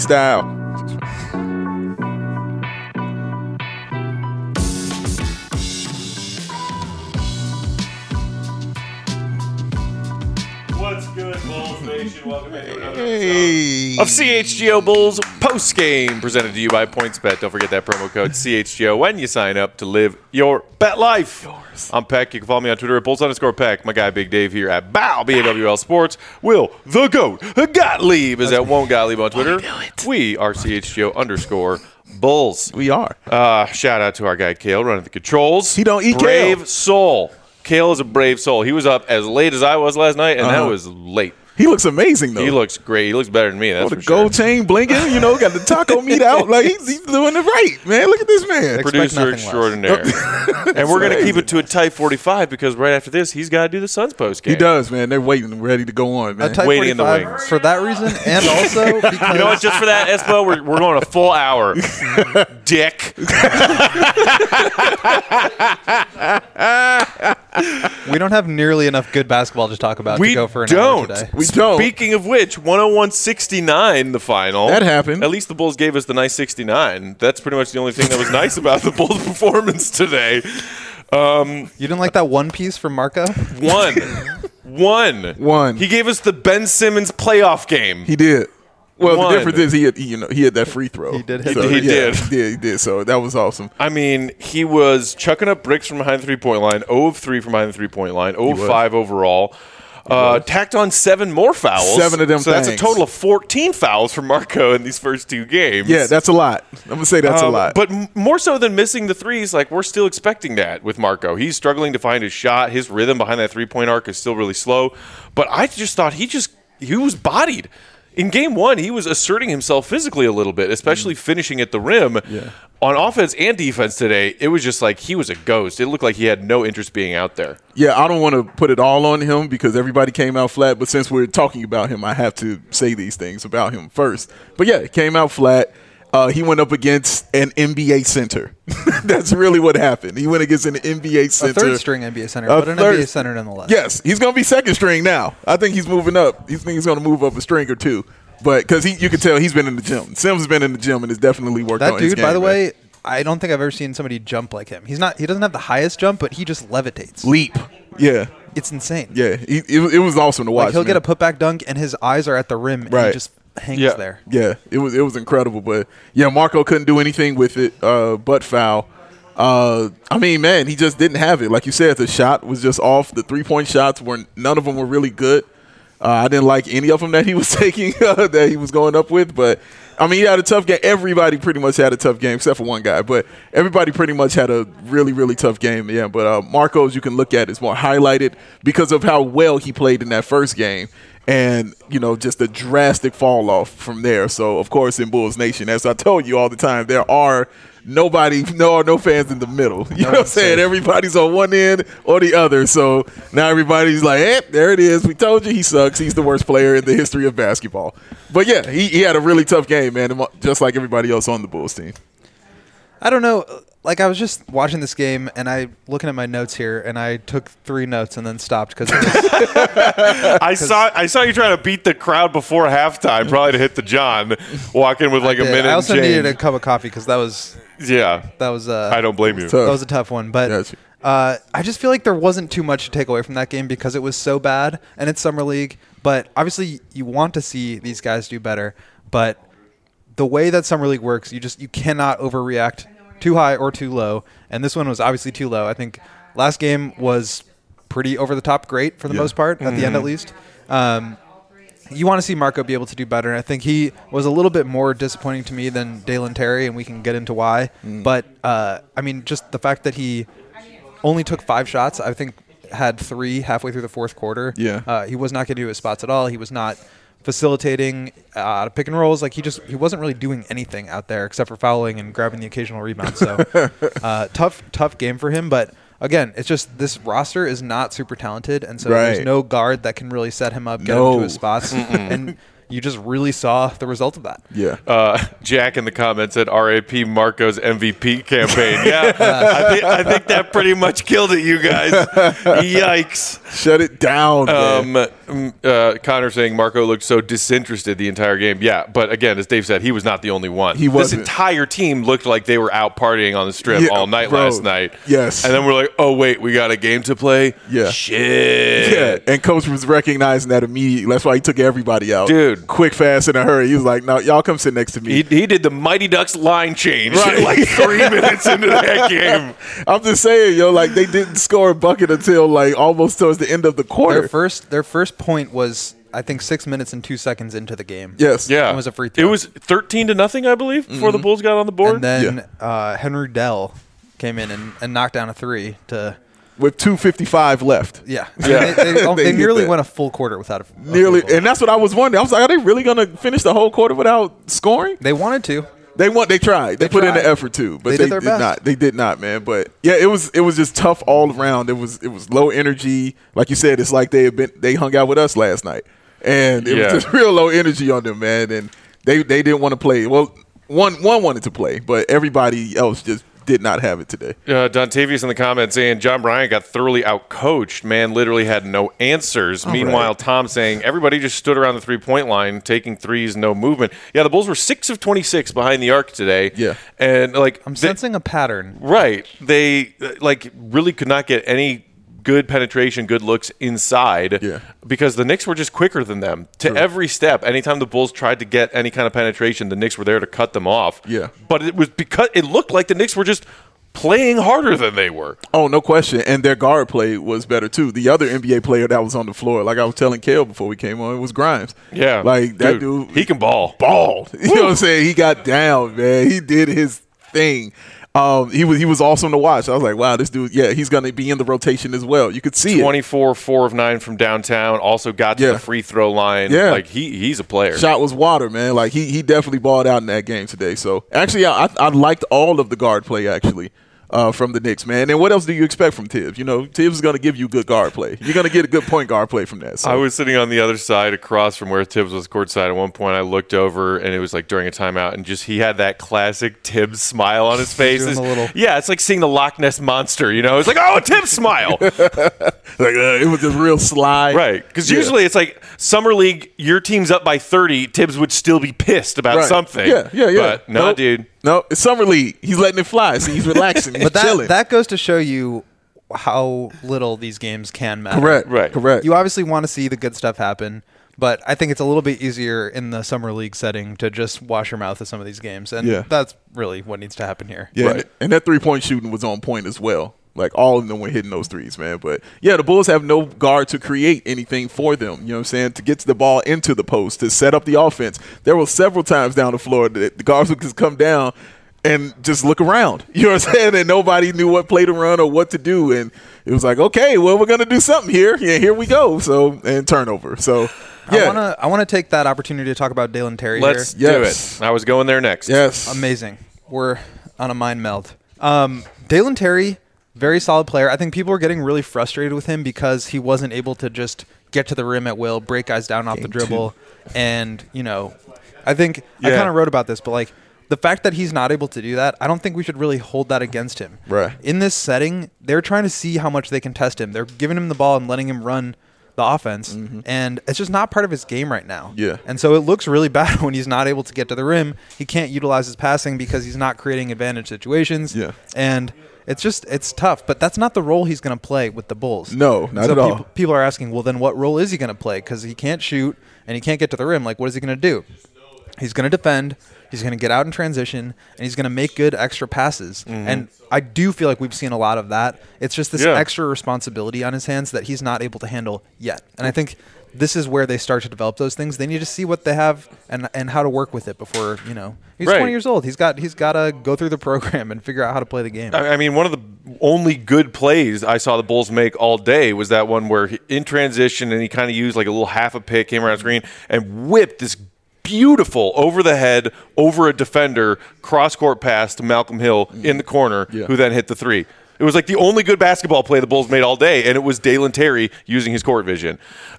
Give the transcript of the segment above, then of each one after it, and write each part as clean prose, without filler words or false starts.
style. What's good, Bulls Nation? Welcome into another episode of CHGO Bulls Postgame, presented to you by PointsBet. Don't forget that promo code CHGO when you sign up to live your bet life. I'm Peck. You can follow me on Twitter at Bulls_Peck. My guy Big Dave here at BAWL Sports. Will the GOAT Gottlieb is at Won't Gottlieb on Twitter. We are CHGO_Bulls. We are. Shout out to our guy Kale running the controls. He don't eat brave kale. soul. Kale is a brave soul. He was up as late as I was last night, and that was late. He looks amazing, though. He looks great. He looks better than me. That's the for sure. gold chain blinking, got the taco meat out. Like, he's doing it right, man. Look at this man. Producer extraordinaire. And we're going to keep it to a tight 45 because right after this, he's got to do the Suns post game. He does, man. They're waiting, ready to go on, man. A tight Waiting in the 45 wings. for that reason, and also because You know what? Just for that, Espo, we're going a full hour. Dick. we don't have nearly enough good basketball to talk about We to go for an don't. hour today. We don't. Speaking of which, 101-69, the final. That happened. At least the Bulls gave us the nice 69. That's pretty much the only thing that was nice about the Bulls' performance today. You didn't like that one piece from Marco? One. He gave us the Ben Simmons playoff game. He did. Well, One. the difference is he had that free throw. He did hit So, that. He did. He did. So that was awesome. I mean, he was chucking up bricks from behind the three-point line, 0 of 3 from behind the three-point line, 0 of 5 overall. Tacked on 7 more fouls. 7 of them So that's a things. total of 14 fouls for Marco in these first 2 games. Yeah, that's a lot. I'm going to say that's a lot. But more so than missing the threes, like we're still expecting that with Marco. He's struggling to find his shot. His rhythm behind that three-point arc is still really slow. But I just thought he was bodied. In game 1, he was asserting himself physically a little bit, especially finishing at the rim. Yeah. On offense and defense today, it was just like he was a ghost. It looked like he had no interest being out there. Yeah, I don't want to put it all on him because everybody came out flat. But since we're talking about him, I have to say these things about him first. But yeah, it came out flat. He went up against an NBA center. That's really what happened. He went against an NBA center. A third-string NBA center, but an NBA center nonetheless. Yes, he's going to be second string now. I think he's moving up. He's going to move up a string or two. But because you can tell he's been in the gym. Sims has been in the gym and has definitely worked on That his dude, game. by the man. way, I don't think I've ever seen somebody jump like him. He doesn't have the highest jump, but he just levitates. Leap. Yeah. It's insane. Yeah. It was awesome to watch. Like he'll man. get a putback dunk, and his eyes are at the rim, and Right. he just hangs Yeah. there. Yeah, it was incredible. But yeah, Marco couldn't do anything with it, but foul. I mean, man, he just didn't have it. Like you said, the shot was just off. The 3-point shots none of them were really good. I didn't like any of them that he was taking that he was going up with. But I mean, he had a tough game. Everybody pretty much had a tough game except for one guy. But everybody pretty much had a really, really tough game. Yeah, but Marco's you can look at is more highlighted because of how well he played in that first game. And, just a drastic fall off from there. So, of course, in Bulls Nation, as I told you all the time, there are no fans in the middle. You know what I'm saying? Everybody's on one end or the other. So now everybody's like, there it is. We told you he sucks. He's the worst player in the history of basketball. But, yeah, he had a really tough game, man, just like everybody else on the Bulls team. I don't know. Like, I was just watching this game, and looking at my notes here, and I took 3 notes and then stopped because I saw you trying to beat the crowd before halftime, probably to hit the John, walk in with like a minute. I also and needed a change. cup of coffee because that was I don't blame you. Tough. that was a tough one. But Gotcha. I just feel like there wasn't too much to take away from that game because it was so bad, and it's Summer League. But obviously, you want to see these guys do better. But the way that Summer League works, you cannot overreact too high or too low. And this one was obviously too low. I think last game was pretty over the top great for the most part, at the end at least. You want to see Marco be able to do better. And I think he was a little bit more disappointing to me than Dalen Terry, and we can get into why. But, I mean, just the fact that he only took 5 shots, I think had 3 halfway through the fourth quarter. Yeah. He was not getting to his spots at all. He was not facilitating out of pick and rolls. Like he wasn't really doing anything out there except for fouling and grabbing the occasional rebound. So tough game for him. But again, it's just this roster is not super talented, and so there's no guard that can really set him up, get him to his spots, and you just really saw the result of that. Yeah. Jack in the comments said RAP Marco's MVP campaign. Yeah, I think that pretty much killed it, you guys. Yikes. Shut it down, man. Connor saying Marco looked so disinterested the entire game. Yeah, but again, as Dave said, he was not the only one. He wasn't. This entire team looked like they were out partying on the strip all night last night. Yes. And then we're like, oh, wait, we got a game to play? Yeah. Shit. Yeah, and Coach was recognizing that immediately. That's why he took everybody out. Dude. Quick, fast, in a hurry. He was like, no, y'all come sit next to me. He did the Mighty Ducks line change Right. like 3 minutes into that game. I'm just saying, like, they didn't score a bucket until, like, almost towards the end of the quarter. Their first point was, I think, 6 minutes and 2 seconds into the game. Yes. Yeah. It was a free throw. It was 13-0, I believe, before the Bulls got on the board. And then Henry Dell came in and knocked down a three to With 2:55 left. yeah. Yeah. They They nearly hit that. went a full quarter without a Nearly, field goal. and that's what I was wondering. I was like, are they really going to finish the whole quarter without scoring? They wanted to. They tried. They put in the effort too, but They they did their did best. not. They did not, man. But yeah, it was just tough all around. It was low energy. Like you said, it's like they hung out with us last night, and it was just real low energy on them, man. And they didn't want to play. Well, one wanted to play, but everybody else just did not have it today. Dontavius in the comments saying John Bryant got thoroughly outcoached. Man literally had no answers. Meanwhile, right. Tom saying everybody just stood around the three-point line, taking threes, no movement. Yeah, the Bulls were 6 of 26 behind the arc today. Yeah. And I'm sensing a pattern. right. They really could not get any good penetration, good looks inside because the Knicks were just quicker than them to every step. Anytime the Bulls tried to get any kind of penetration, the Knicks were there to cut them off. Yeah. But it was because it looked like the Knicks were just playing harder than they were. Oh, no question. And their guard play was better too. The other NBA player that was on the floor, like I was telling Kale before we came on, it was Grimes. Yeah. Like that dude, he can ball. Balled. You know what I'm saying? He got down, man. He did his thing. He was awesome to watch. I was like, wow, this dude, he's going to be in the rotation as well. You could see 24, 4 of 9 from downtown. Also got to the free throw line. Yeah. Like he's a player. Shot was water, man. Like he definitely balled out in that game today. So actually, I liked all of the guard play actually. From the Knicks, man. And what else do you expect from Tibbs? You know, Tibbs is going to give you good guard play. You're going to get a good point guard play from that. So. I was sitting on the other side across from where Tibbs was courtside. At one point, I looked over, and it was like during a timeout, and just he had that classic Tibbs smile on his face. Yeah, it's like seeing the Loch Ness Monster, you know? It's like, oh, a Tibbs smile. It was just real sly. Right, because usually it's like Summer League, your team's up by 30, Tibbs would still be pissed about something. Yeah. But no, dude. No, it's Summer League. He's letting it fly. See, he's relaxing. He's But chilling. that goes to show you how little these games can matter. Correct. Right. Correct. You obviously want to see the good stuff happen, but I think it's a little bit easier in the summer league setting to just wash your mouth at some of these games, and that's really what needs to happen here. Yeah, and that 3-point shooting was on point as well. Like, all of them were hitting those threes, man. But, yeah, the Bulls have no guard to create anything for them, you know what I'm saying, to get the ball into the post, to set up the offense. There were several times down the floor that the guards would just come down and just look around, you know what I'm saying, and nobody knew what play to run or what to do. And it was like, okay, well, we're going to do something here. Yeah, here we go. So, and turnover. So, yeah. I want to take that opportunity to talk about Dalen Terry Let's here. do it. I was going there next. Yes. Amazing. We're on a mind meld. Dalen Terry, very solid player. I think people are getting really frustrated with him because he wasn't able to just get to the rim at will, break guys down off the dribble. And, you know, I think I kind of wrote about this, but like the fact that he's not able to do that, I don't think we should really hold that against him. Right. In this setting, they're trying to see how much they can test him. They're giving him the ball and letting him run the offense, and it's just not part of his game right now. Yeah. And so it looks really bad when he's not able to get to the rim. He can't utilize his passing because he's not creating advantage situations. Yeah. And it's tough, but that's not the role he's going to play with the Bulls. No, not at all. People are asking, well, then what role is he going to play? Because he can't shoot and he can't get to the rim. Like, what is he going to do? He's going to defend. He's going to get out in transition, and he's going to make good extra passes. And I do feel like we've seen a lot of that. It's just this extra responsibility on his hands that he's not able to handle yet. And I think this is where they start to develop those things. They need to see what they have and how to work with it before, you know. He's 20 years old. He's got to go through the program and figure out how to play the game. I mean, one of the only good plays I saw the Bulls make all day was that one where in transition and he kind of used like a little half a pick, came around screen, and whipped this beautiful over the head, over a defender, cross-court pass to Malcolm Hill in the corner, who then hit the three. It was like the only good basketball play the Bulls made all day, and it was Dalen Terry using his court vision.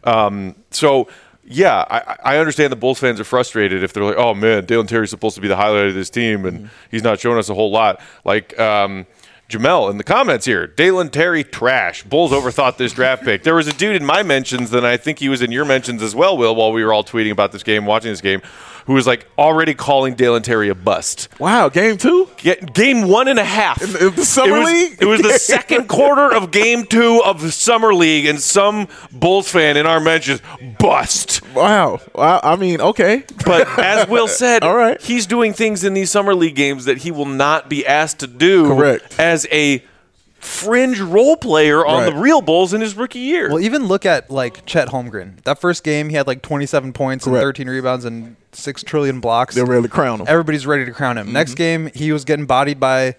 I understand the Bulls fans are frustrated if they're like, oh, man, Dalen Terry's supposed to be the highlight of this team, and he's not showing us a whole lot. Like, Jamel in the comments here. Dalen Terry trash. Bulls overthought this draft pick. There was a dude in my mentions, and I think he was in your mentions as well, Will, while we were all tweeting about this game, watching this game, who was like already calling Dalen Terry a bust. Wow, game 2? Game 1.5. In the Summer League? It was the second quarter of game 2 of the Summer League, and some Bulls fan in our mentions, bust. Wow. I mean, okay. But as Will said, All right. he's doing things in these Summer League games that he will not be asked to do Correct. as a fringe role player on Right. the real Bulls in his rookie year. Well, even look at like Chet Holmgren. That first game, he had like 27 points and Correct. 13 rebounds and 6 trillion blocks. They're ready to crown him. Everybody's ready to crown him. Next game, he was getting bodied by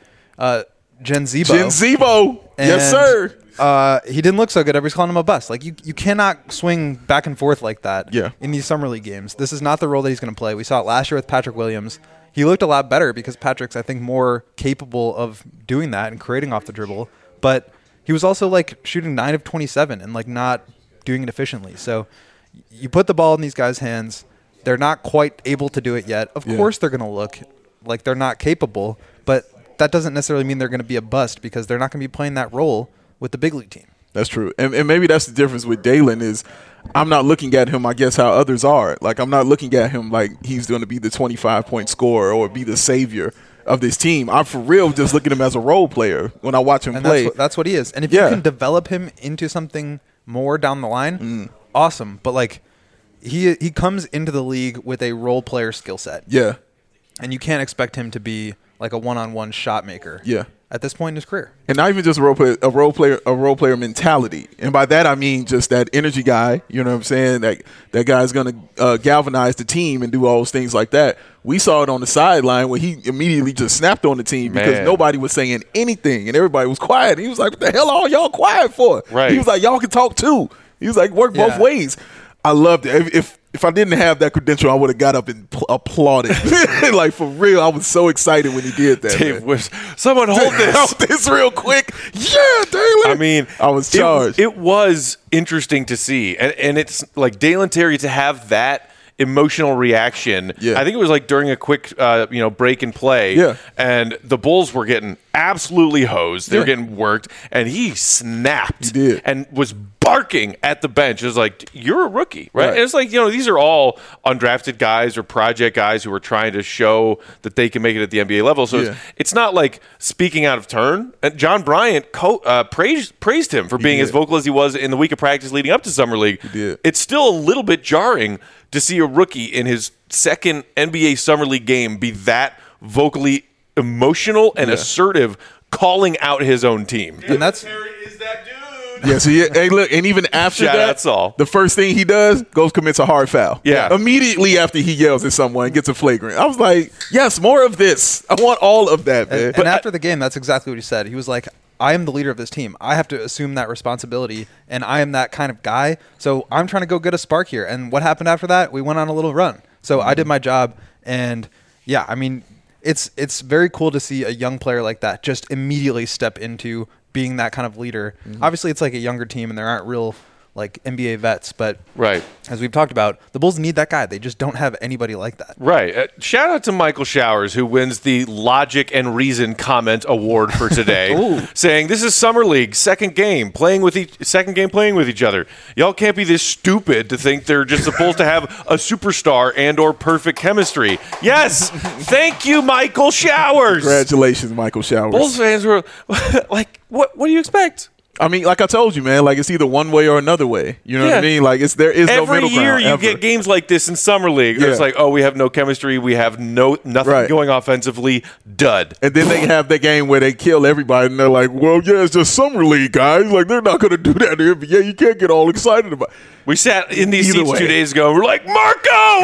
Jen Zebo. Jen Zebo. Yes, And, sir. He didn't look so good. Everybody's calling him a bust. Like you cannot swing back and forth like that. Yeah. In these summer league games, this is not the role that he's going to play. We saw it last year with Patrick Williams. He looked a lot better because Patrick's, I think, more capable of doing that and creating off the dribble. But he was also like shooting 9 of 27 and like not doing it efficiently. So you put the ball in these guys' hands. They're not quite able to do it yet. Of course, they're going to look like they're not capable, but that doesn't necessarily mean they're going to be a bust because they're not going to be playing that role with the big league team. That's true. And maybe that's the difference with Dalen is I'm not looking at him, I guess, how others are. Like, I'm not looking at him like he's going to be the 25-point scorer or be the savior of this team. I'm for real just looking at him as a role player when I watch him And play. that's what he is. And if you can develop him into something more down the line, awesome. But like he comes into the league with a role player skill set. Yeah. And you can't expect him to be like a one-on-one shot maker. Yeah. At this point in his career. And not even just a role player mentality. And by that I mean just that energy guy, you know what I'm saying? That guy's going to galvanize the team and do all those things like that. We saw it on the sideline where he immediately just snapped on the team because nobody was saying anything and everybody was quiet. He was like, "What the hell are y'all quiet for?" Right. He was like, "Y'all can talk too." He was like, "Work both ways." I loved it. If I didn't have that credential, I would have got up and applauded. Like, for real, I was so excited when he did that. Dave was, someone hold this. Hold this real quick. Yeah, Dalen. I mean, I was charged. It was interesting to see. And it's like Dalen Terry to have that emotional reaction. Yeah. I think it was like during a quick break and play. Yeah. And the Bulls were getting absolutely hosed. They were getting worked. And he snapped. He did. And was barking at the bench. It was like, you're a rookie, right? Right. And it's like, these are all undrafted guys or project guys who are trying to show that they can make it at the NBA level. So it's not like speaking out of turn. And John Bryant praised him for being as vocal as he was in the week of practice leading up to Summer League. He did. It's still a little bit jarring to see a rookie in his second NBA Summer League game be that vocally emotional and assertive, calling out his own team. And that's Terry is that dude. Yeah, so hey, look, and even after Shout that, out Saul. the first thing he does, goes commits a hard foul. Yeah. Immediately after he yells at someone, gets a flagrant. I was like, yes, more of this. I want all of that, man. and after the game, that's exactly what he said. He was like, I am the leader of this team. I have to assume that responsibility, and I am that kind of guy. So I'm trying to go get a spark here. And what happened after that? We went on a little run. So I did my job. And, yeah, I mean, it's very cool to see a young player like that just immediately step into being that kind of leader. Obviously, it's like a younger team, and there aren't real like NBA vets, but as we've talked about, the Bulls need that guy. They just don't have anybody like that. Right. Shout out to Michael Showers, who wins the Logic and Reason Comment Award for today, saying this is Summer League, second game playing with each other. Y'all can't be this stupid to think they're just supposed to have a superstar and or perfect chemistry. Yes, thank you, Michael Showers. Congratulations, Michael Showers. Bulls fans were like, "What do you expect?" I mean, like I told you, man, like it's either one way or another way. You know what I mean? Like there is no middle ground. Every year you get games like this in Summer League. It's like, oh, we have no chemistry. We have nothing going offensively. Dud. And then they have the game where they kill everybody, and they're like, well, yeah, it's just Summer League, guys. Like, they're not going to do that in the NBA. You can't get all excited about it. We sat in these seats 2 days ago, and we're like, Marco,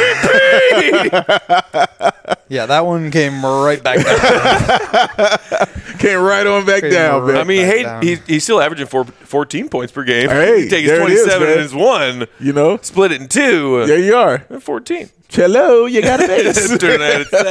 MVP! Yeah, that one came right back down. Came right on back down, man. I mean, he's still averaging 14 points per game. Hey, he takes 27 and his one. You know? Split it in two. There you are. 14. Cello, you got a base. Turn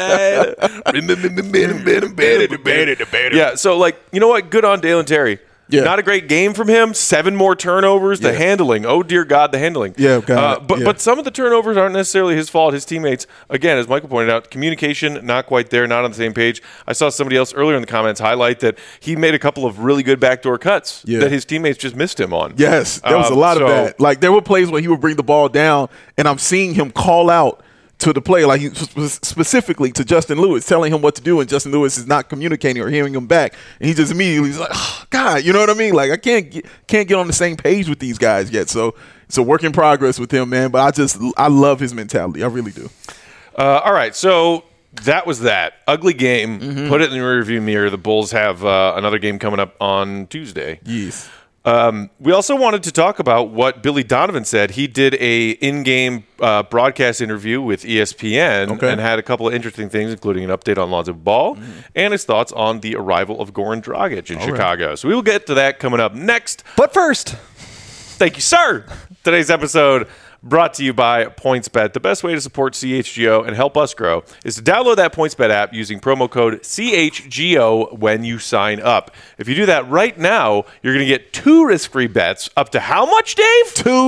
that aside. Yeah, so, like, you know what? Good on Dalen Terry. Yeah. Not a great game from him. 7 more turnovers. The handling. Oh, dear God, the handling. Yeah, God, but some of the turnovers aren't necessarily his fault. His teammates, again, as Michael pointed out, communication not quite there, not on the same page. I saw somebody else earlier in the comments highlight that he made a couple of really good backdoor cuts that his teammates just missed him on. Yes, there was a lot of that. Like, there were plays where he would bring the ball down, and I'm seeing him call out to the play, like specifically to Justin Lewis, telling him what to do, and Justin Lewis is not communicating or hearing him back, and he just immediately is like, oh, God, you know what I mean? Like, I can't get on the same page with these guys yet. So it's a work in progress with him, man. But I love his mentality. I really do. All right, so that was that ugly game. Put it in the rearview mirror. The Bulls have another game coming up on Tuesday. Yes. We also wanted to talk about what Billy Donovan said. He did a in-game broadcast interview with ESPN and had a couple of interesting things, including an update on Lonzo Ball and his thoughts on the arrival of Goran Dragic in Chicago. Right. So we will get to that coming up next. But first, thank you, sir. Today's episode brought to you by PointsBet. The best way to support CHGO and help us grow is to download that PointsBet app using promo code CHGO when you sign up. If you do that right now, you're going to get 2 risk-free bets up to how much, Dave?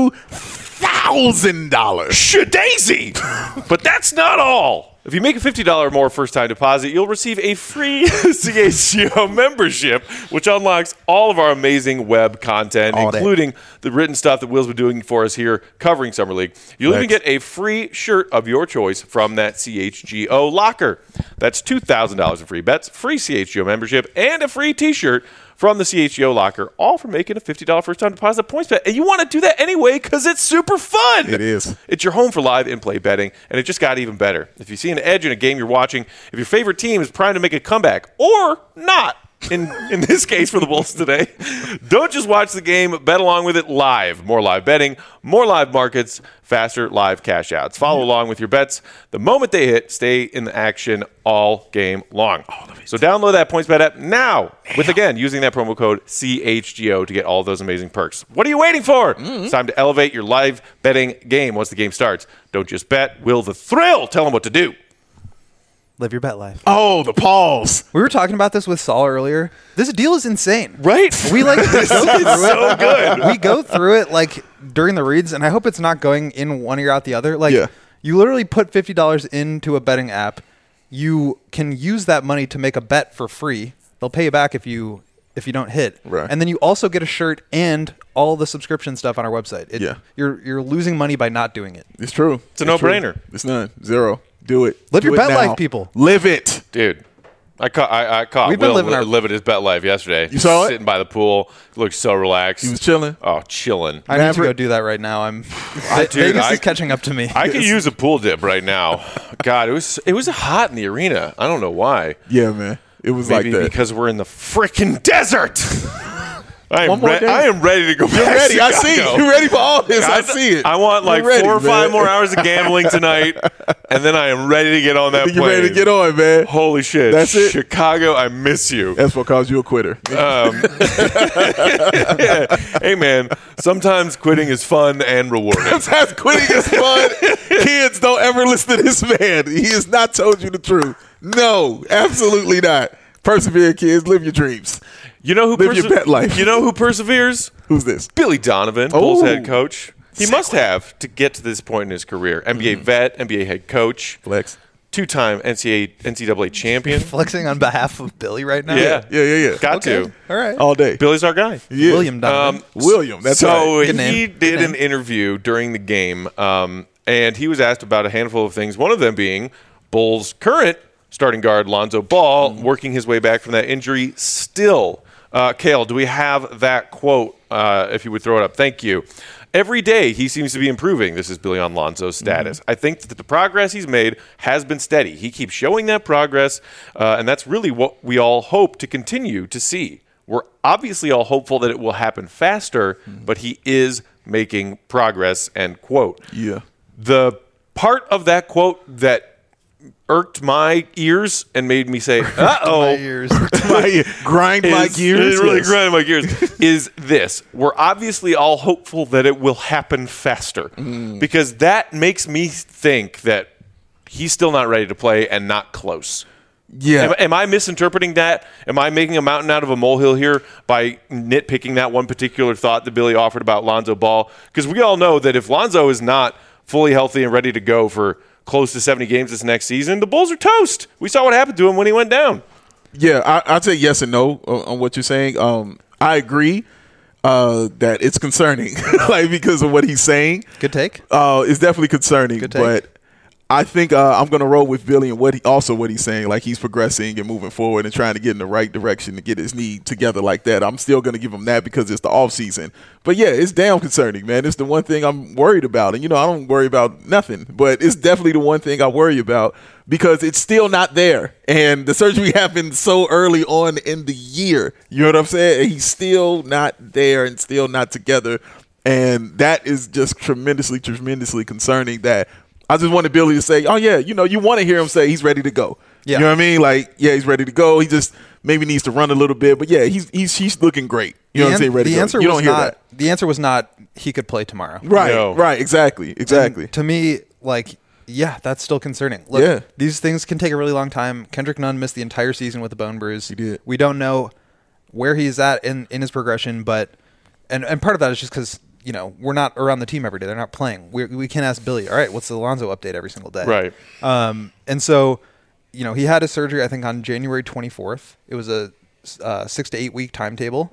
$2,000. Shadaisy! But that's not all. If you make a $50 or more first-time deposit, you'll receive a free CHGO membership, which unlocks all of our amazing web content, including the written stuff that Will's been doing for us here covering Summer League. You'll even get a free shirt of your choice from that CHGO locker. That's $2,000 in free bets, free CHGO membership, and a free T-shirt from the CHGO locker, all for making a $50 first-time deposit at PointsBet. And you want to do that anyway because it's super fun. It is. It's your home for live in-play betting, and it just got even better. If you see an edge in a game you're watching, if your favorite team is primed to make a comeback, or not, in this case for the Bulls today, don't just watch the game, bet along with it live. More live betting, more live markets, faster live cash outs. Follow along with your bets. The moment they hit, stay in the action all game long. So download that PointsBet app now with, again, using that promo code CHGO to get all those amazing perks. What are you waiting for? It's time to elevate your live betting game once the game starts. Don't just bet. Will the thrill tell them what to do? live your bet life. Oh, the pause. We were talking about this with Saul earlier. This deal is insane. Right? We like This is so good. We go through it like during the reads, and I hope it's not going in one ear out the other. Like you literally put $50 into a betting app. You can use that money to make a bet for free. They'll pay you back if you don't hit. Right. And then you also get a shirt and all the subscription stuff on our website. You're losing money by not doing it. It's true. It's a no-brainer. It's none. Zero. Do it. Live Do your it bet now. life, people. Live it. Dude. I caught We've been Will living his bet life yesterday. You saw it? Sitting by the pool. He looked so relaxed. He was chilling. Oh, chilling. I need to go do that right now. Vegas is catching up to me. I could use a pool dip right now. God, it was hot in the arena. I don't know why. Yeah, man. It was Maybe like that. because we're in the freaking desert. I am ready to go back. You're ready. Chicago. I see. You're ready for all this. I see it. I want like You're ready, 4 or 5 man. more hours of gambling tonight, and then I am ready to get on that plane. You're ready to get on, man. Holy shit. That's it. Chicago, I miss you. That's what calls you a quitter. Hey, man, sometimes quitting is fun and rewarding. Sometimes quitting is fun. Kids, don't ever listen to this man. He has not told you the truth. No, absolutely not. Persevere, kids. Live your dreams. You know who Live your pet life. You know who perseveres? Who's this? Billy Donovan, Bulls head coach. He must have to get to this point in his career. NBA vet, NBA head coach. Flex. 2-time NCAA champion. Flexing on behalf of Billy right now. Yeah. Got to. All right. All day. Billy's our guy. Yeah. William Donovan. William. That's so right. Good name. he did an interview during the game, and he was asked about a handful of things. One of them being Bulls' current starting guard Lonzo Ball working his way back from that injury still. Kale, do we have that quote? If you would throw it up. Thank you. Every day he seems to be improving. This is Billy on Lonzo's status. I think that the progress he's made has been steady. He keeps showing that progress, and that's really what we all hope to continue to see. We're obviously all hopeful that it will happen faster, but he is making progress, end quote. Yeah. The part of that quote that irked my ears and made me say, uh-oh. My ears. Grind my gears. It really grinded my gears. Is this. We're obviously all hopeful that it will happen faster because that makes me think that he's still not ready to play and not close. Yeah. Am I misinterpreting that? Am I making a mountain out of a molehill here by nitpicking that one particular thought that Billy offered about Lonzo Ball? Because we all know that if Lonzo is not fully healthy and ready to go for close to 70 games this next season, the Bulls are toast. We saw what happened to him when he went down. Yeah, I'd say yes and no on what you're saying. I agree that it's concerning, like because of what he's saying. Good take. It's definitely concerning. Good take. But I think I'm going to roll with Billy and what he's saying. Like he's progressing and moving forward and trying to get in the right direction to get his knee together like that. I'm still going to give him that because it's the off season. But yeah, it's damn concerning, man. It's the one thing I'm worried about. And I don't worry about nothing, but it's definitely the one thing I worry about because it's still not there. And the surgery happened so early on in the year. You know what I'm saying? He's still not there and still not together. And that is just tremendously, tremendously concerning that I just wanted Billy to say, oh, yeah, you want to hear him say he's ready to go. Yeah. You know what I mean? Like, yeah, he's ready to go. He just maybe needs to run a little bit. But, yeah, he's looking great. You know what I'm saying? Ready to go. You don't hear that. The answer was not he could play tomorrow. Right, No. right, exactly. And to me, like, yeah, that's still concerning. Look, Yeah. these things can take a really long time. Kendrick Nunn missed the entire season with a bone bruise. He did. We don't know where he's at in his progression, but and part of that is just because we're not around the team every day. They're not playing. We can't ask Billy, all right, what's the Lonzo update every single day? Right. And so, he had his surgery, I think, on January 24th. It was a 6 to 8 week timetable,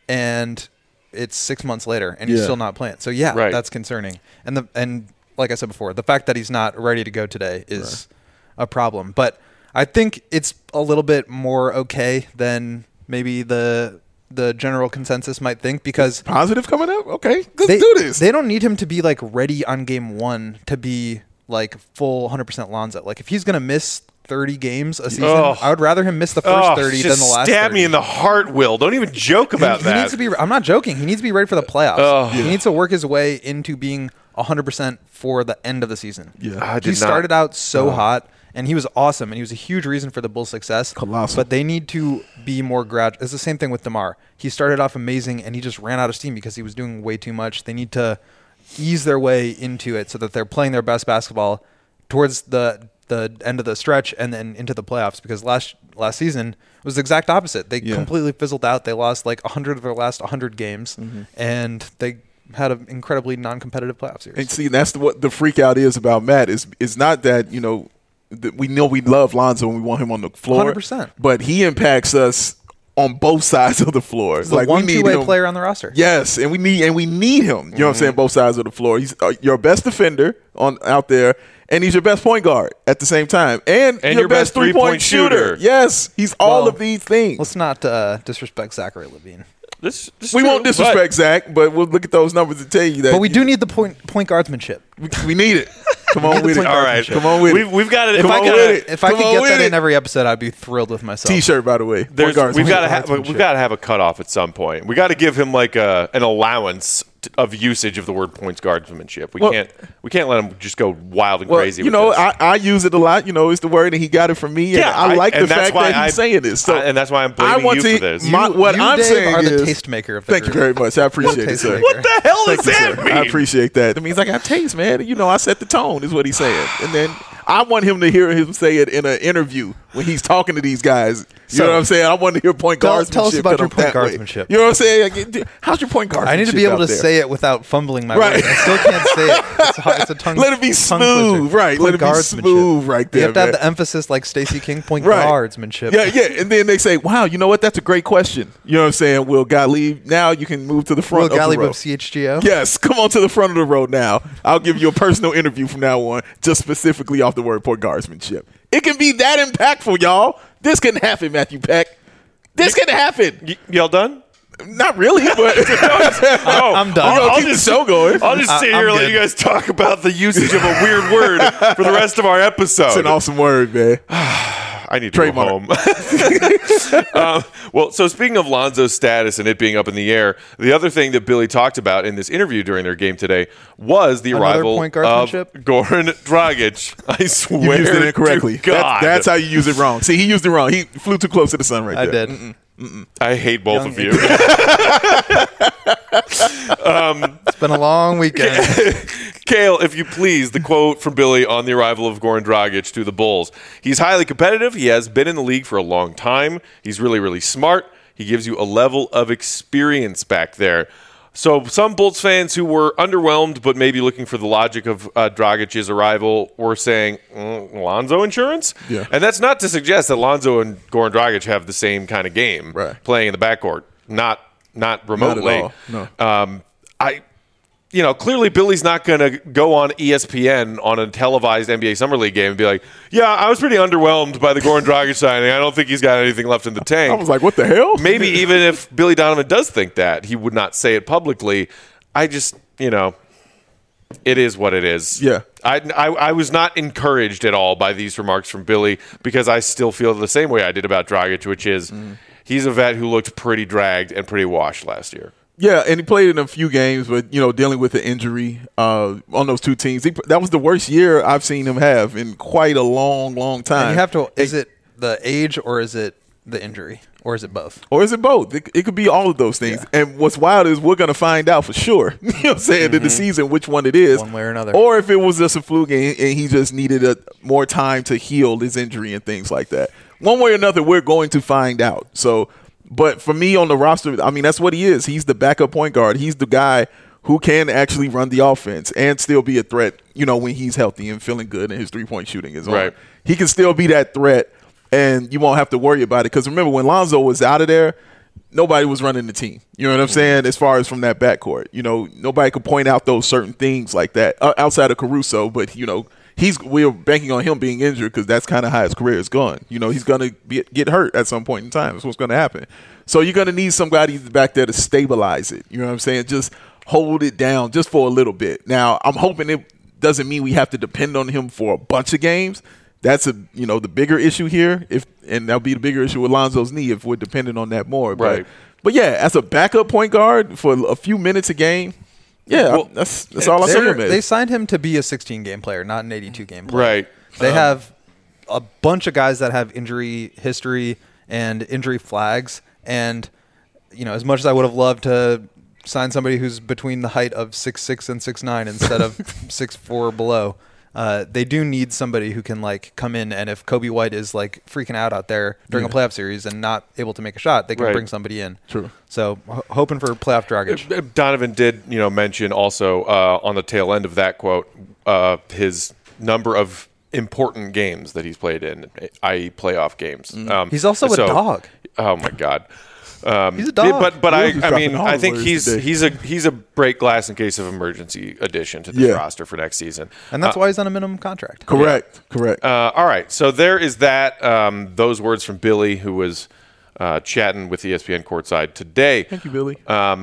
and it's 6 months later, and he's Yeah. still not playing. So, yeah, Right. that's concerning. And like I said before, the fact that he's not ready to go today is a problem. But I think it's a little bit more okay than maybe the general consensus might think because Positive coming up? Okay, let's do this. They don't need him to be like ready on game one to be like full 100% Lonzo. Like if he's going to miss 30 games a season, I would rather him miss the first 30 than the last 30. Stab me in the heart, Will. Don't even joke about He that. needs to be. I'm not joking. He needs to be ready for the playoffs. He needs to work his way into being 100% for the end of the season. Yeah. He started out so hot, and he was awesome, and he was a huge reason for the Bulls' success. Colossal. But they need to be more gradual. It's the same thing with DeMar. He started off amazing, and he just ran out of steam because he was doing way too much. They need to ease their way into it so that they're playing their best basketball towards the end of the stretch and then into the playoffs, because last season was the exact opposite. They completely fizzled out. They lost like 100 of their last 100 games, and they had an incredibly non-competitive playoff series. And see, that's what the freak out is about Matt. Is not that, we know we love Lonzo and we want him on the floor. 100%. But he impacts us on both sides of the floor. He's the one two-way player on the roster. Yes, and we need him. You know what I'm saying? Both sides of the floor. He's your best defender out there, and he's your best point guard at the same time, and your best three-point shooter. Yes, he's all of these things. Let's not disrespect Zachary LaVine. This We won't disrespect Zach, but we'll look at those numbers and tell you that. But we do need the point guardsmanship. We need it. Come on with it. All right, Come on with it. We've got it. If I Come could on get with that it. in every episode, I'd be thrilled with myself. T-shirt, by the way. We've got Guardsmanship. to have a cutoff at some point. We got to give him like an allowance of usage of the word points guardsmanship. We can't let him just go wild and crazy. You with know, this. I use it a lot. It's the word, and he got it from me. And I like the fact that he's saying this. So and that's why I'm blaming you for this. What I'm Dave, saying are the is, tastemaker of the thank you group. very much. I appreciate it, sir. What the hell does Thank you, that sir. mean? I appreciate that. That means I got taste, man. I set the tone, is what he's saying. And then I want him to hear him say it in an interview when he's talking to these guys. You know what I'm saying? I want to hear point guardsmanship. Tell us about your that point way. guardsmanship. You know what I'm saying? How's your point guardsmanship? I need to be able out to there? say it without fumbling my Right. words. I still can't say it. It's a tongue. Let it be tongue smooth, twister. right? Point Let it be guardsmanship. smooth right there, You have to have man. the emphasis like Stacey King. Point Right. guardsmanship. Yeah. And then they say, wow, you know what? That's a great question. You know what I'm saying? Will Gottlieb, now you can move to the front Will of the Gottlieb row. of CHGO. Yes, come on to the front of the road now. I'll give you a personal interview from now on, just specifically off the word point guardsmanship. It can be that impactful, y'all. This can happen, Matthew Peck. This can happen. Y'all done? Not really, but I'm done. I'll keep the show going. I'll just sit here and let good. you guys talk about the usage of a weird word for the rest of our episode. It's an awesome word, man. I need to Trademark. go home. Well, so speaking of Lonzo's status and it being up in the air, the other thing that Billy talked about in this interview during their game today was the Another arrival point of guardsmanship? Goran Dragic. I swear You used it incorrectly. to God. That's how you use it wrong. See, he used it wrong. He flew too close to the sun right I there. did. I hate both Young of you. It's been a long weekend. Kale, if you please, the quote from Billy on the arrival of Goran Dragic to the Bulls. He's highly competitive. He has been in the league for a long time. He's really, really smart. He gives you a level of experience back there. So some Bulls fans who were underwhelmed but maybe looking for the logic of Dragic's arrival were saying, Lonzo insurance? Yeah. And that's not to suggest that Lonzo and Goran Dragic have the same kind of game playing in the backcourt. Not remotely. Not at all. No. Clearly Billy's not going to go on ESPN on a televised NBA Summer League game and be like, yeah, I was pretty underwhelmed by the Goran Dragic signing. I don't think he's got anything left in the tank. I was like, what the hell? Maybe even if Billy Donovan does think that, he would not say it publicly. I just, it is what it is. Yeah. I was not encouraged at all by these remarks from Billy because I still feel the same way I did about Dragic, which is he's a vet who looked pretty dragged and pretty washed last year. Yeah, and he played in a few games, but, dealing with the injury on those two teams. That was the worst year I've seen him have in quite a long, long time. And you have to – is it the age or is it the injury? Or is it both? Or is it both? It could be all of those things. Yeah. And what's wild is we're going to find out for sure, you know what I'm saying, in the season which one it is. One way or another. Or if it was just a fluke and he just needed more time to heal his injury and things like that. One way or another, we're going to find out. So – but for me on the roster, that's what he is. He's the backup point guard. He's the guy who can actually run the offense and still be a threat, when he's healthy and feeling good and his three-point shooting is on. Right. He can still be that threat, and you won't have to worry about it. Because remember, when Lonzo was out of there, nobody was running the team. You know what I'm saying? As far as from that backcourt. Nobody could point out those certain things like that outside of Caruso, but, we're banking on him being injured because that's kind of how his career is going. He's going to get hurt at some point in time. That's what's going to happen. So you're going to need somebody back there to stabilize it. You know what I'm saying? Just hold it down just for a little bit. Now, I'm hoping it doesn't mean we have to depend on him for a bunch of games. That's the bigger issue here. And that'll be the bigger issue with Lonzo's knee if we're dependent on that more. Right. But yeah, as a backup point guard for a few minutes a game, yeah, well, that's all I see him as. They signed him to be a 16-game player, not an 82-game player. Right. They have a bunch of guys that have injury history and injury flags. And, as much as I would have loved to sign somebody who's between the height of 6'6" and 6'9" instead of 6'4" below, they do need somebody who can, come in. And if Kobe White is, freaking out there during a playoff series and not able to make a shot, they can bring somebody in. True. So hoping for playoff Dragic. Donovan did, mention also on the tail end of that quote his number of important games that he's played in, i.e. playoff games. He's also a dog. Oh my God. He's a dog. But I think he's a break glass in case of emergency addition to this roster for next season. And that's why he's on a minimum contract. Correct. All right. So there is that. Those words from Billy, who was chatting with ESPN courtside today. Thank you, Billy.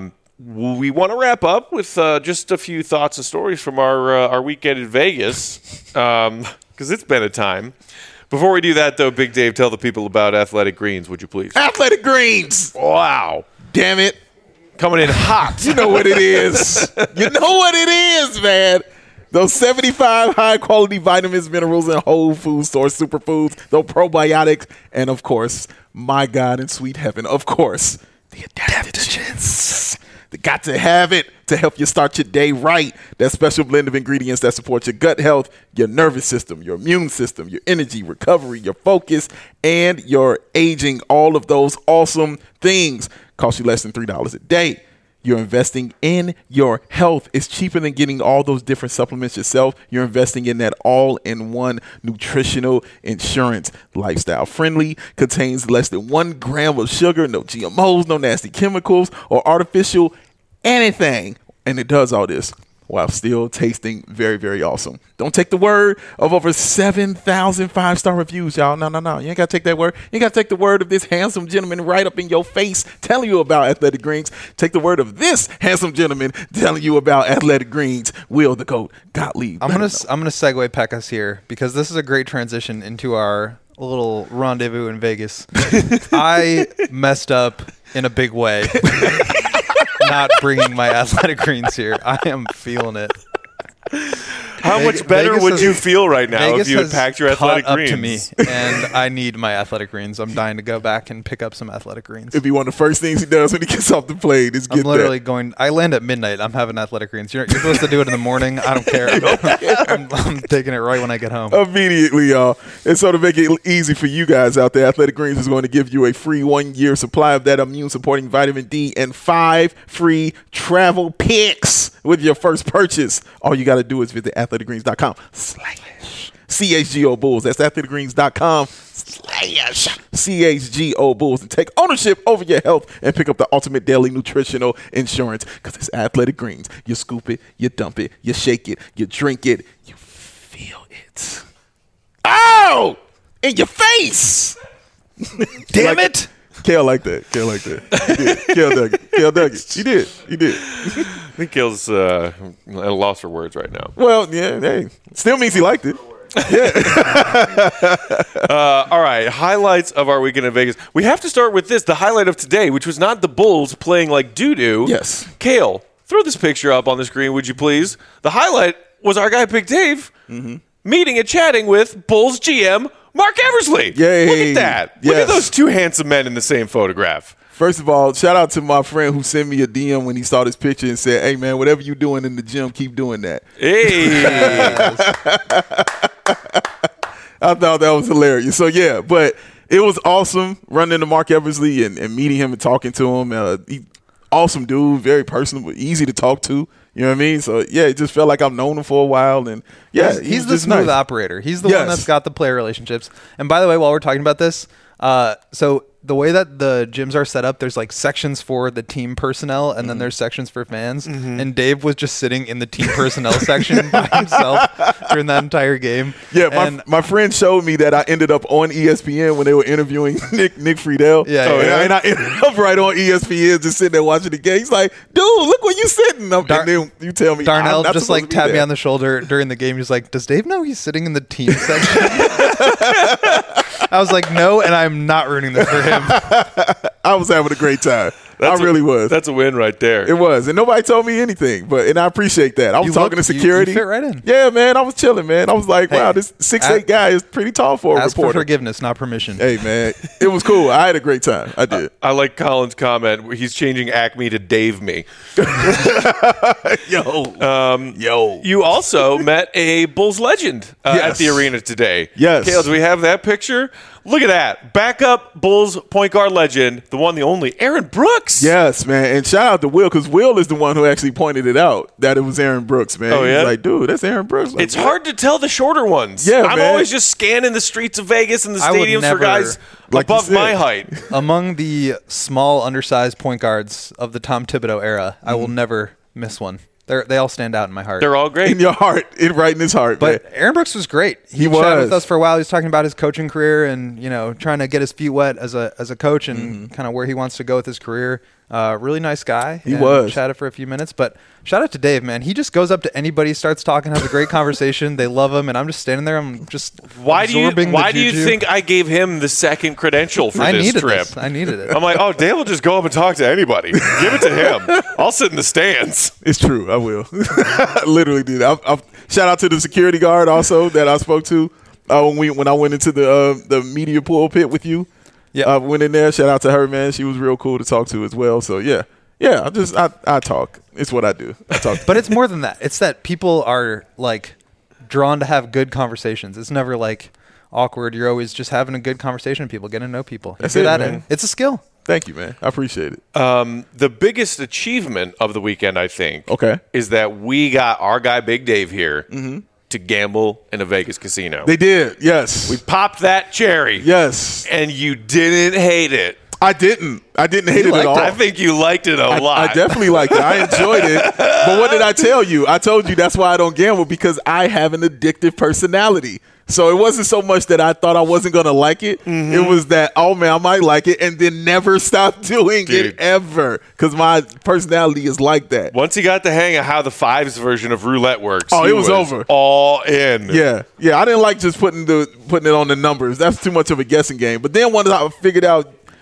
We want to wrap up with just a few thoughts and stories from our weekend in Vegas, because it's been a time. Before we do that, though, Big Dave, tell the people about Athletic Greens, would you please? Athletic Greens! Wow. Damn it. Coming in hot. You know what it is. You know what it is, man. Those 75 high-quality vitamins, minerals, and whole food source superfoods, those probiotics, and, of course, my God in sweet heaven, of course, the adaptogens. They got to have it to help you start your day right. That special blend of ingredients that support your gut health, your nervous system, your immune system, your energy, recovery, your focus, and your aging. All of those awesome things cost you less than $3 a day. You're investing in your health. It's cheaper than getting all those different supplements yourself. You're investing in that all-in-one nutritional insurance. Lifestyle friendly, contains less than 1 gram of sugar, no GMOs, no nasty chemicals or artificial anything. And it does all this while still tasting very, very awesome. Don't take the word of over 7,000 5-star reviews, y'all. No. You ain't got to take that word. You got to take the word of this handsome gentleman right up in your face telling you about Athletic Greens. Take the word of this handsome gentleman telling you about Athletic Greens. Will the GOAT Gottlieb. I'm gonna segue Pekkas here because this is a great transition into our little rendezvous in Vegas. I messed up in a big way. Not bringing my Athletic Greens here. I am feeling it. How much better Vegas would has- you feel right now Vegas if you had has packed your caught athletic up greens? to me, and I need my athletic greens. I'm dying to go back and pick up some athletic greens. It'd be one of the first things he does when he gets off the plane is I'm get literally that. going. I land at midnight. I'm having athletic greens. You're supposed to do it in the morning. I don't care. I'm taking it right when I get home. Immediately, y'all. And so to make it easy for you guys out there, Athletic Greens is going to give you a free 1-year supply of that immune-supporting vitamin D and 5 free travel picks with your first purchase. All you got to do is visit athleticgreens.com/CHGO Bulls. That's athleticgreens.com/CHGO Bulls, and take ownership over your health and pick up the ultimate daily nutritional insurance, because it's Athletic Greens. You scoop it, you dump it, you shake it, you drink it, you feel it. Ow! In your face! Damn it! Kale like that. Kale like that. He did. Kale dug it. Kale dug it. He did. He did. I think Kale's at a loss for words right now. Well, yeah, hey. Still means he liked it. All right, highlights of our weekend in Vegas. We have to start with this, the highlight of today, which was not the Bulls playing like doo-doo. Yes. Kale, throw this picture up on the screen, would you please? The highlight was our guy Big Dave meeting and chatting with Bulls GM Mark Eversley. Yay. Look at that. Look at Yes. those two handsome men in the same photograph. First of all, shout out to my friend who sent me a DM when he saw this picture and said, "Hey, man, whatever you doing in the gym, keep doing that." Hey. I thought that was hilarious. So, yeah, but it was awesome running into Mark Eversley and meeting him and talking to him. Awesome dude, very personable, easy to talk to. You know what I mean? So, yeah, it just felt like I've known him for a while. And, yeah, he's the just smooth nice. operator. He's the Yes. one that's got the player relationships. And by the way, while we're talking about this, so the way that the gyms are set up, there's like sections for the team personnel, and then there's sections for fans. And Dave was just sitting in the team personnel section by himself during that entire game. Yeah, And my friend showed me that I ended up on ESPN when they were interviewing Nick Friedel. Yeah, and, yeah. and I ended up right on ESPN just sitting there watching the game. He's like, dude, look where you sitting. And then you tell me, I'm Darnell not just supposed like to be tapped me there. on the shoulder during the game. He's like, "Does Dave know he's sitting in the team section?" I was like, "No," and I'm not rooting this for him. I was having a great time. I really was. That's a win right there. It was, and nobody told me anything, and I appreciate that. I was You talking look- to you security. fit right in. Yeah, man, I was chilling, man. I was like, Hey, wow, this 6'8" guy is pretty tall for a Ask for reporter. forgiveness, not permission. Hey, man, it was cool. I had a great time. I did. I like Colin's comment where he's changing Acme to Dave Me. Yo. You also met a Bulls legend at Yes. the arena today. Yes. Kale, do we have that picture? Look at that. Backup Bulls point guard legend, the one, the only, Aaron Brooks. Yes, man. And shout out to Will, because Will is the one who actually pointed it out that it was Aaron Brooks, man. Oh, He yeah? was like, dude, that's Aaron Brooks. Like, It's what? hard to tell the shorter ones. Yeah, I'm man. always just scanning the streets of Vegas and the I would stadiums for never- guys Like you above said. my height. Among the small, undersized point guards of the Tom Thibodeau era, I will never miss one. They all stand out in my heart. They're all great. In your heart, right in his heart, But man. Aaron Brooks was great. He chatted was. with us for a while. He was talking about his coaching career and trying to get his feet wet as a coach and kind of where he wants to go with his career. Really nice guy. He and was. Chatted for a few minutes, but shout out to Dave, man. He just goes up to anybody, starts talking, has a great conversation. They love him, and I'm just standing there. I'm just Why do you absorbing the Why do you juju. think I gave him the second credential for I this needed trip? this? I needed it. I'm like, oh, Dave will just go up and talk to anybody. Give it to him. I'll sit in the stands. It's true. I will. I literally did. Shout out to the security guard also that I spoke to when I went into the media pulpit with you. Yeah. I went in there. Shout out to her, man. She was real cool to talk to as well. So, yeah. Yeah, I talk. It's what I do. I talk. But it's more than that. It's that people are like drawn to have good conversations. It's never like awkward. You're always just having a good conversation with people, getting to know people. That's You're good it, at man. it. It's a skill. Thank you, man. I appreciate it. The biggest achievement of the weekend, I think, Okay. is that we got our guy Big Dave here to gamble in a Vegas casino. They did. Yes. We popped that cherry. Yes. And you didn't hate it. I didn't hate it at all. I think you liked it a lot. I definitely liked it. I enjoyed it. But what did I tell you? I told you that's why I don't gamble, because I have an addictive personality. So it wasn't so much that I thought I wasn't going to like it. It was that, oh, man, I might like it, and then never stop doing Dude. it ever, because my personality is like that. Once he got the hang of how the fives version of roulette works, Oh, he it was over. All in. Yeah. I didn't like just putting it on the numbers. That's too much of a guessing game. But then once I figured out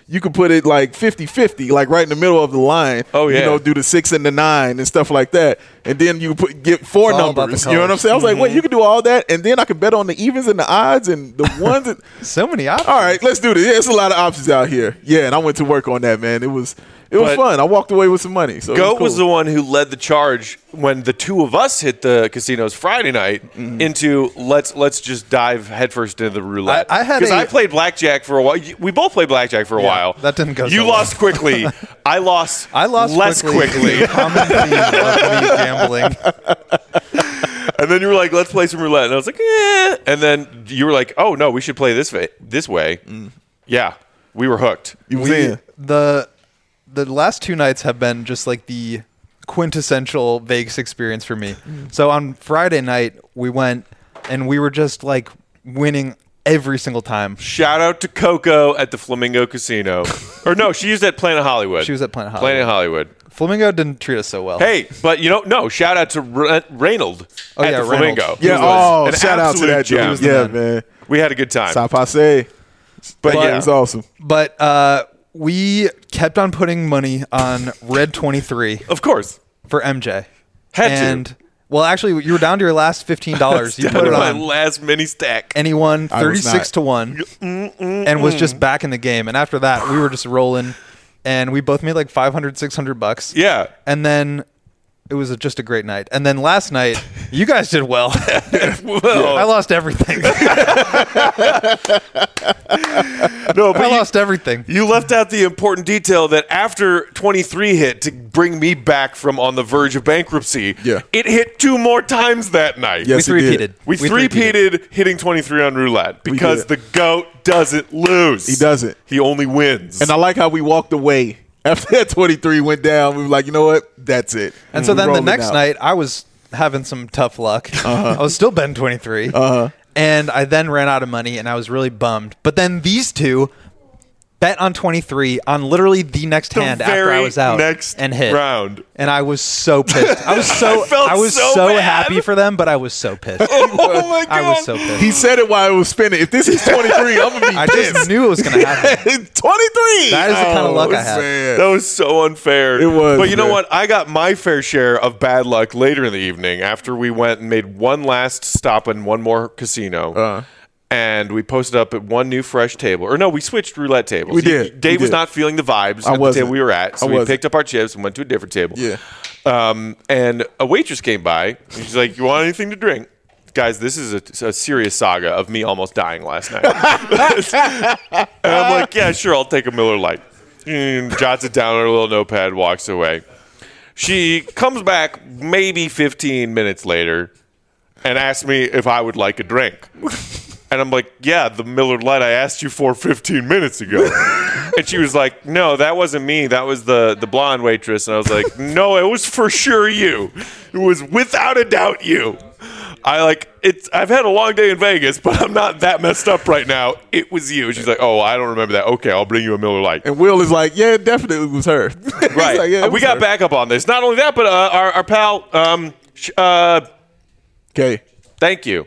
you could put it like 50-50, like right in the middle of the line. Oh, yeah. You know, do the 6 and the 9 and stuff like that. And then you get 4 It's all about numbers. the You know what I'm colors. saying? I was like, wait, you can do all that, and then I could bet on the evens and the odds and the ones. So many options. All right, let's do this. Yeah, it's a lot of options out here. Yeah, and I went to work on that, man. It was But fun. I walked away with some money. So Goat it was was the cool. one who led the charge when the two of us hit the casinos Friday night into let's just dive headfirst into the roulette. I had because a- I played blackjack for a while. We both played blackjack for a while. that didn't go You so lost quickly. I lost less quickly. A common theme of me gambling. And then you were like, let's play some roulette. And I was like, yeah. And then you were like, oh, no, we should play this way. Yeah, we were hooked. You was in. The last 2 nights have been just like the quintessential Vegas experience for me. So on Friday night, we went and we were just like winning every single time. Shout out to Coco at the Flamingo Casino. Or no, she was at Planet Hollywood. She was at Planet Hollywood. Planet Hollywood. Flamingo didn't treat us so well. Hey, but no, shout out to Reynold Oh, at yeah, the Flamingo. Reynolds. who Yeah, was an shout out to absolute that dude. gem. Yeah, man. man. We had a good time. Sa passe. But yeah, It was awesome. But we kept on putting money on Red 23 of course. for MJ. Had to. and well, actually, you were down to your last $15. You Down put to it my on, last mini stack. and he won I was 36 to 1, and was just back in the game. And after that, we were just rolling, and we both made like $500-$600. Yeah. And then it was just a great night. And then last night, you guys did well. Well, I lost everything. no, but I lost everything. you left out the important detail that after 23 hit to bring me back from on the verge of bankruptcy, Yeah. it hit 2 more times that night. Yes, We it did. three-peated. We three-peated hitting 23 on roulette because the did. GOAT doesn't lose. He doesn't. He only wins. And I like how we walked away. After that 23 went down, we were like, you know what? That's it. And so We're then the rolling next out. night, I was having some tough luck. I was still betting 23. And I then ran out of money, and I was really bummed. But then these two bet on 23 on literally the next hand after I very was out next and hit. round. And I was so pissed. I was so I felt so bad. happy for them, but I was so pissed. Oh my God. I was so pissed. He said it while it was spinning. If this is 23, I'm going to be I pissed. just knew it was going to happen. 23! That is the kind of luck I had. sad. That was so unfair. It was, But you know man. what? I got my fair share of bad luck later in the evening after we went and made one last stop in one more casino. And we posted up at one new fresh table. Or no, we switched roulette tables. We did. Dave We was did. not feeling the vibes I at the wasn't. table we were at. So I we wasn't. picked up our chips and went to a different table. Yeah. And a waitress came by. And she's like, "You want anything to drink?" Guys, this is a serious saga of me almost dying last night. And I'm like, "Yeah, sure, I'll take a Miller Lite." And jots it down on her little notepad, walks away. She comes back maybe 15 minutes later and asks me if I would like a drink. And I'm like, yeah, the Miller Lite I asked you for 15 minutes ago. And she was like, no, that wasn't me. That was the blonde waitress. And I was like, no, it was for sure you. It was without a doubt you. I've had a long day in Vegas, but I'm not that messed up right now. It was you. She's like, oh, I don't remember that. Okay, I'll bring you a Miller Lite. And Will is like, yeah, it definitely was her. He's Right. like, yeah, it We was got her. backup on this. Not only that, but our pal, Okay. thank you,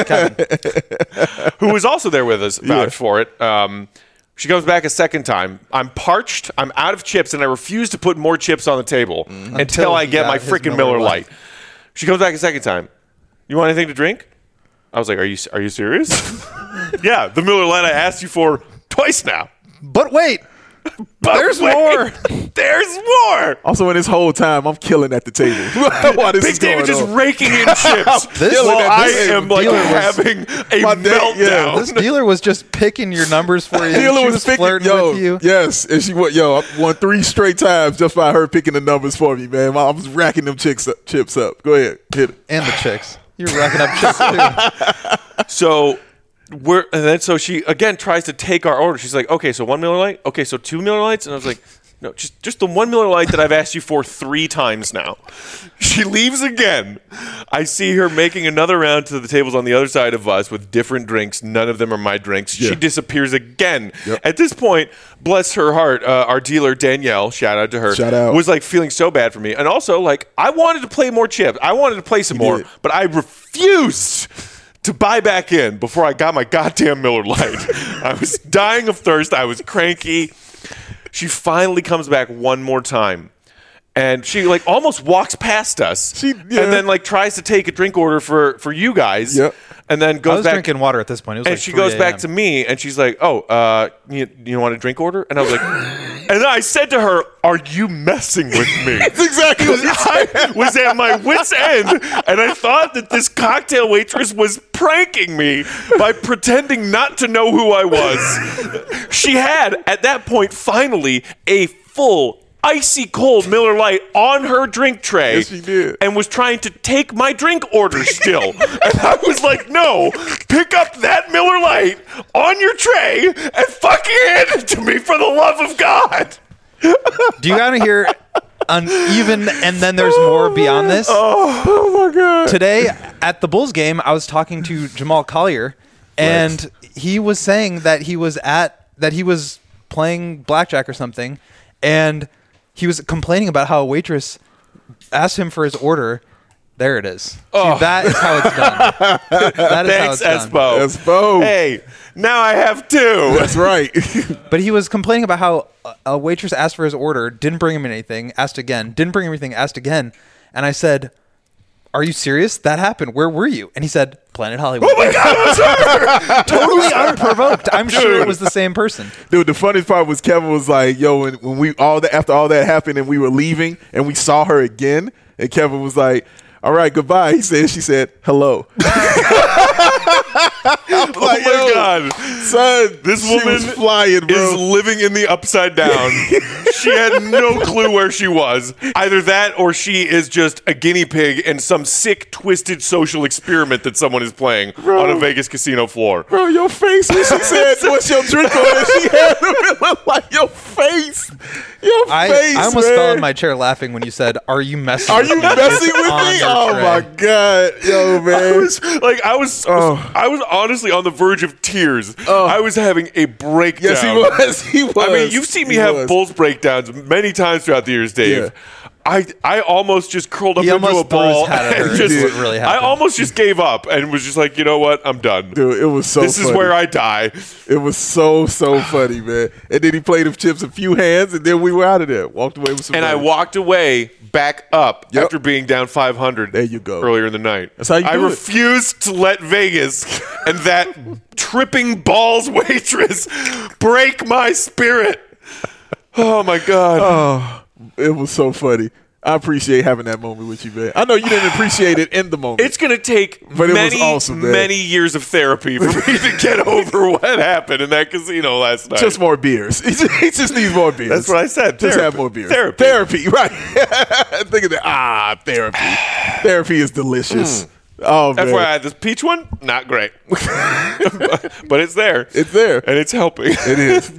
who was also there with us, vouched for it. She comes back a second time. I'm parched. I'm out of chips, and I refuse to put more chips on the table until I he get got my his freaking Miller Miller Lite. Lite. She comes back a second time. You want anything to drink? I was like, are you serious? Yeah, the Miller Lite I asked you for twice now. But wait, But there's wait, more. There's more. Also, in this whole time, I'm killing at the table. While this Big is going David just on. raking in chips. This- While Killing I at this am like dealer was- having a My dad- meltdown. yeah, This dealer was just picking your numbers for you. Dealer She was was picking, flirting with you. Yes, and she went, I won 3 straight times just by her picking the numbers for me, man. I was racking them chips up. Go ahead, hit it. And the chicks. You're racking up chicks too. So so she again tries to take our order. She's like, okay, so 1 Miller Lite. Okay, so 2 Miller Lights. And I was like, no, just the 1 Miller Lite that I've asked you for 3 times now. She leaves again. I see her making another round to the tables on the other side of us with different drinks. None of them are my drinks. Yeah. She disappears again. Yep. At this point, bless her heart, our dealer Danielle, shout out to her, Shout out. was like feeling so bad for me. And also, like, I wanted to play more chips. I wanted to play some more, did. but I refused to buy back in before I got my goddamn Miller Lite. I was dying of thirst. I was cranky. She finally comes back one more time. And she like almost walks past us, and then like tries to take a drink order for you guys, and then goes back. Drinking water at this point. It was and like she 3 goes back a.m. to me, and she's like, "Oh, you want a drink order?" And I was like, and then I said to her, "Are you messing with me?" That's exactly what you said. I was at my wit's end, and I thought that this cocktail waitress was pranking me by pretending not to know who I was. She had at that point finally a full icy cold Miller Lite on her drink tray. Yes, she did. And was trying to take my drink order still. And I was like, no, pick up that Miller Lite on your tray and fucking hand it to me for the love of God. Do you want to hear uneven and then there's more beyond this? Oh my God. Today at the Bulls game, I was talking to Jamal Collier, and he was saying that he was playing blackjack or something, and he was complaining about how a waitress asked him for his order. There it is. See, that is how it's done. That is Thanks, how it's Espo. Espo. Hey, now I have two. That's right. But he was complaining about how a waitress asked for his order, didn't bring him anything, asked again, didn't bring him anything, asked again. And I said, "Are you serious? That happened. Where were you?" And he said, "Planet Hollywood." Oh my God, it was her! Totally unprovoked. I'm sure it was the same person. Dude, the funniest part was Kevin was like, "Yo, when we after all that happened and we were leaving and we saw her again, and Kevin was like, 'All right, goodbye.' She said, 'Hello.'" Oh my God, son, this she woman was flying, bro. is living in the upside down. She had no clue where she was. Either that, or she is just a guinea pig in some sick, twisted social experiment that someone is playing on a Vegas casino floor. Bro, your face when she said, "What's your drink order?" She had a Miller Lite. Your face. Your face, I almost man. fell in my chair laughing when you said, "Are you messing Are with you me?" messing with On me? your Oh tray. my God. Yo, man. I was honestly on the verge of tears. I was having a breakdown. Yes, he was. He was. I mean, you've seen me He have was. Bulls breakdowns many times throughout the years, Dave. Yeah. I almost just curled up He into a almost ball. bruised had it and hurt. just- That's what really I happened. almost just gave up and was just like, you know what? I'm done. Dude, it was so This funny. is where I die. It was so funny, man. And then he played them chips a few hands, and then we were out of there. Walked away with some And I money. walked away back up Yep. after being down 500. There you go. Earlier in the night. That's how you I do it. refused to let Vegas and that tripping balls waitress break my spirit. Oh my God. It was so funny. I appreciate having that moment with you, man. I know you didn't appreciate it in the moment. It's going to take But it was many, awesome, man. many years of therapy for me to get over what happened in that casino last night. just more beers. He just needs more beers. That's what I said. Just Therapy. have more beers. Therapy. right. Think of that. Therapy. Therapy is delicious. Oh, man. FYI, this peach one, not great. But it's there. It's there. And it's helping. It is.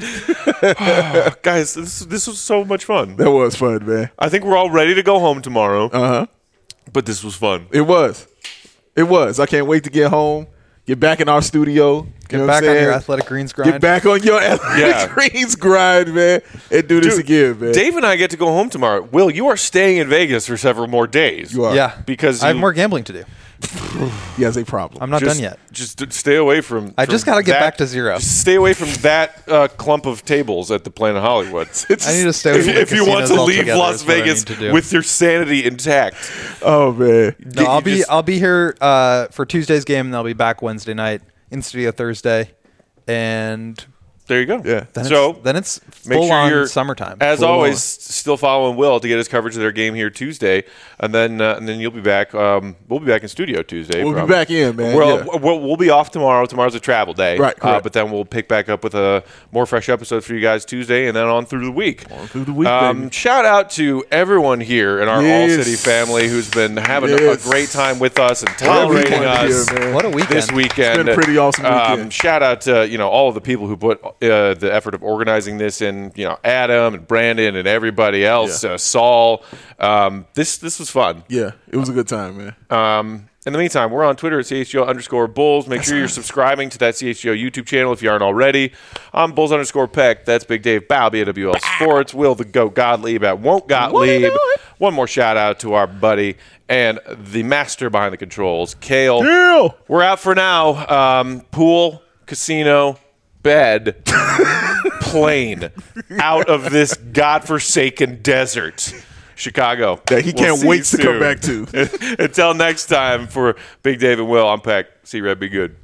Guys, this was so much fun. That was fun, man. I think we're all ready to go home tomorrow. Uh-huh. But this was fun. It was. It was. I can't wait to get home, get back in our studio. Get back on your Athletic Greens grind. Get back on your Athletic Greens grind, man, and do this again, man. Dave and I get to go home tomorrow. Will, you are staying in Vegas for several more days. You are. Yeah, Because I have you- more gambling to do. He has a problem. I'm not Just- done yet. Just stay away from. I just gotta get back to zero. Just stay away from that clump of tables at the Planet Hollywood. I need to stay away from the If you want casinos to leave altogether Las is what I Vegas need to do. with your sanity intact. Oh, man. No, You I'll be here for Tuesday's game, and I'll be back Wednesday night in studio Thursday, and There you go. Yeah. then it's make full sure on you're summertime. As Full always, on. still following Will to get his coverage of their game here Tuesday, and then you'll be back. We'll be back in studio Tuesday. We'll be probably. back in, man. Well, Yeah. we'll be off tomorrow. Tomorrow's a travel day, Right, correct. but then we'll pick back up with a more fresh episode for you guys Tuesday, and then on through the week. through the week, baby. Shout out to everyone here in our Yes. All City family who's been having Yes. a great time with us and tolerating Everyone us. here, man. What a weekend! This weekend, It's been a pretty awesome weekend. Shout out to all of the people who put the effort of organizing this in. Adam and Brandon and everybody else. Yeah. Saul. This was fun. Yeah, it was a good time, man. In the meantime, we're on Twitter at CHGO_Bulls. Make sure you're subscribing to that CHGO YouTube channel if you aren't already. I'm Bulls_Peck. That's Big Dave Balby at WL Sports. Will the Goat Gottlieb at Won't Gottlieb. One more shout out to our buddy and the master behind the controls, Kale. Kale! We're out for now. Pool, casino, bed plane out of this godforsaken desert. Chicago. That he can't wait to come back to. Until next time, for Big Dave and Will, I'm Peck. See Red, be good.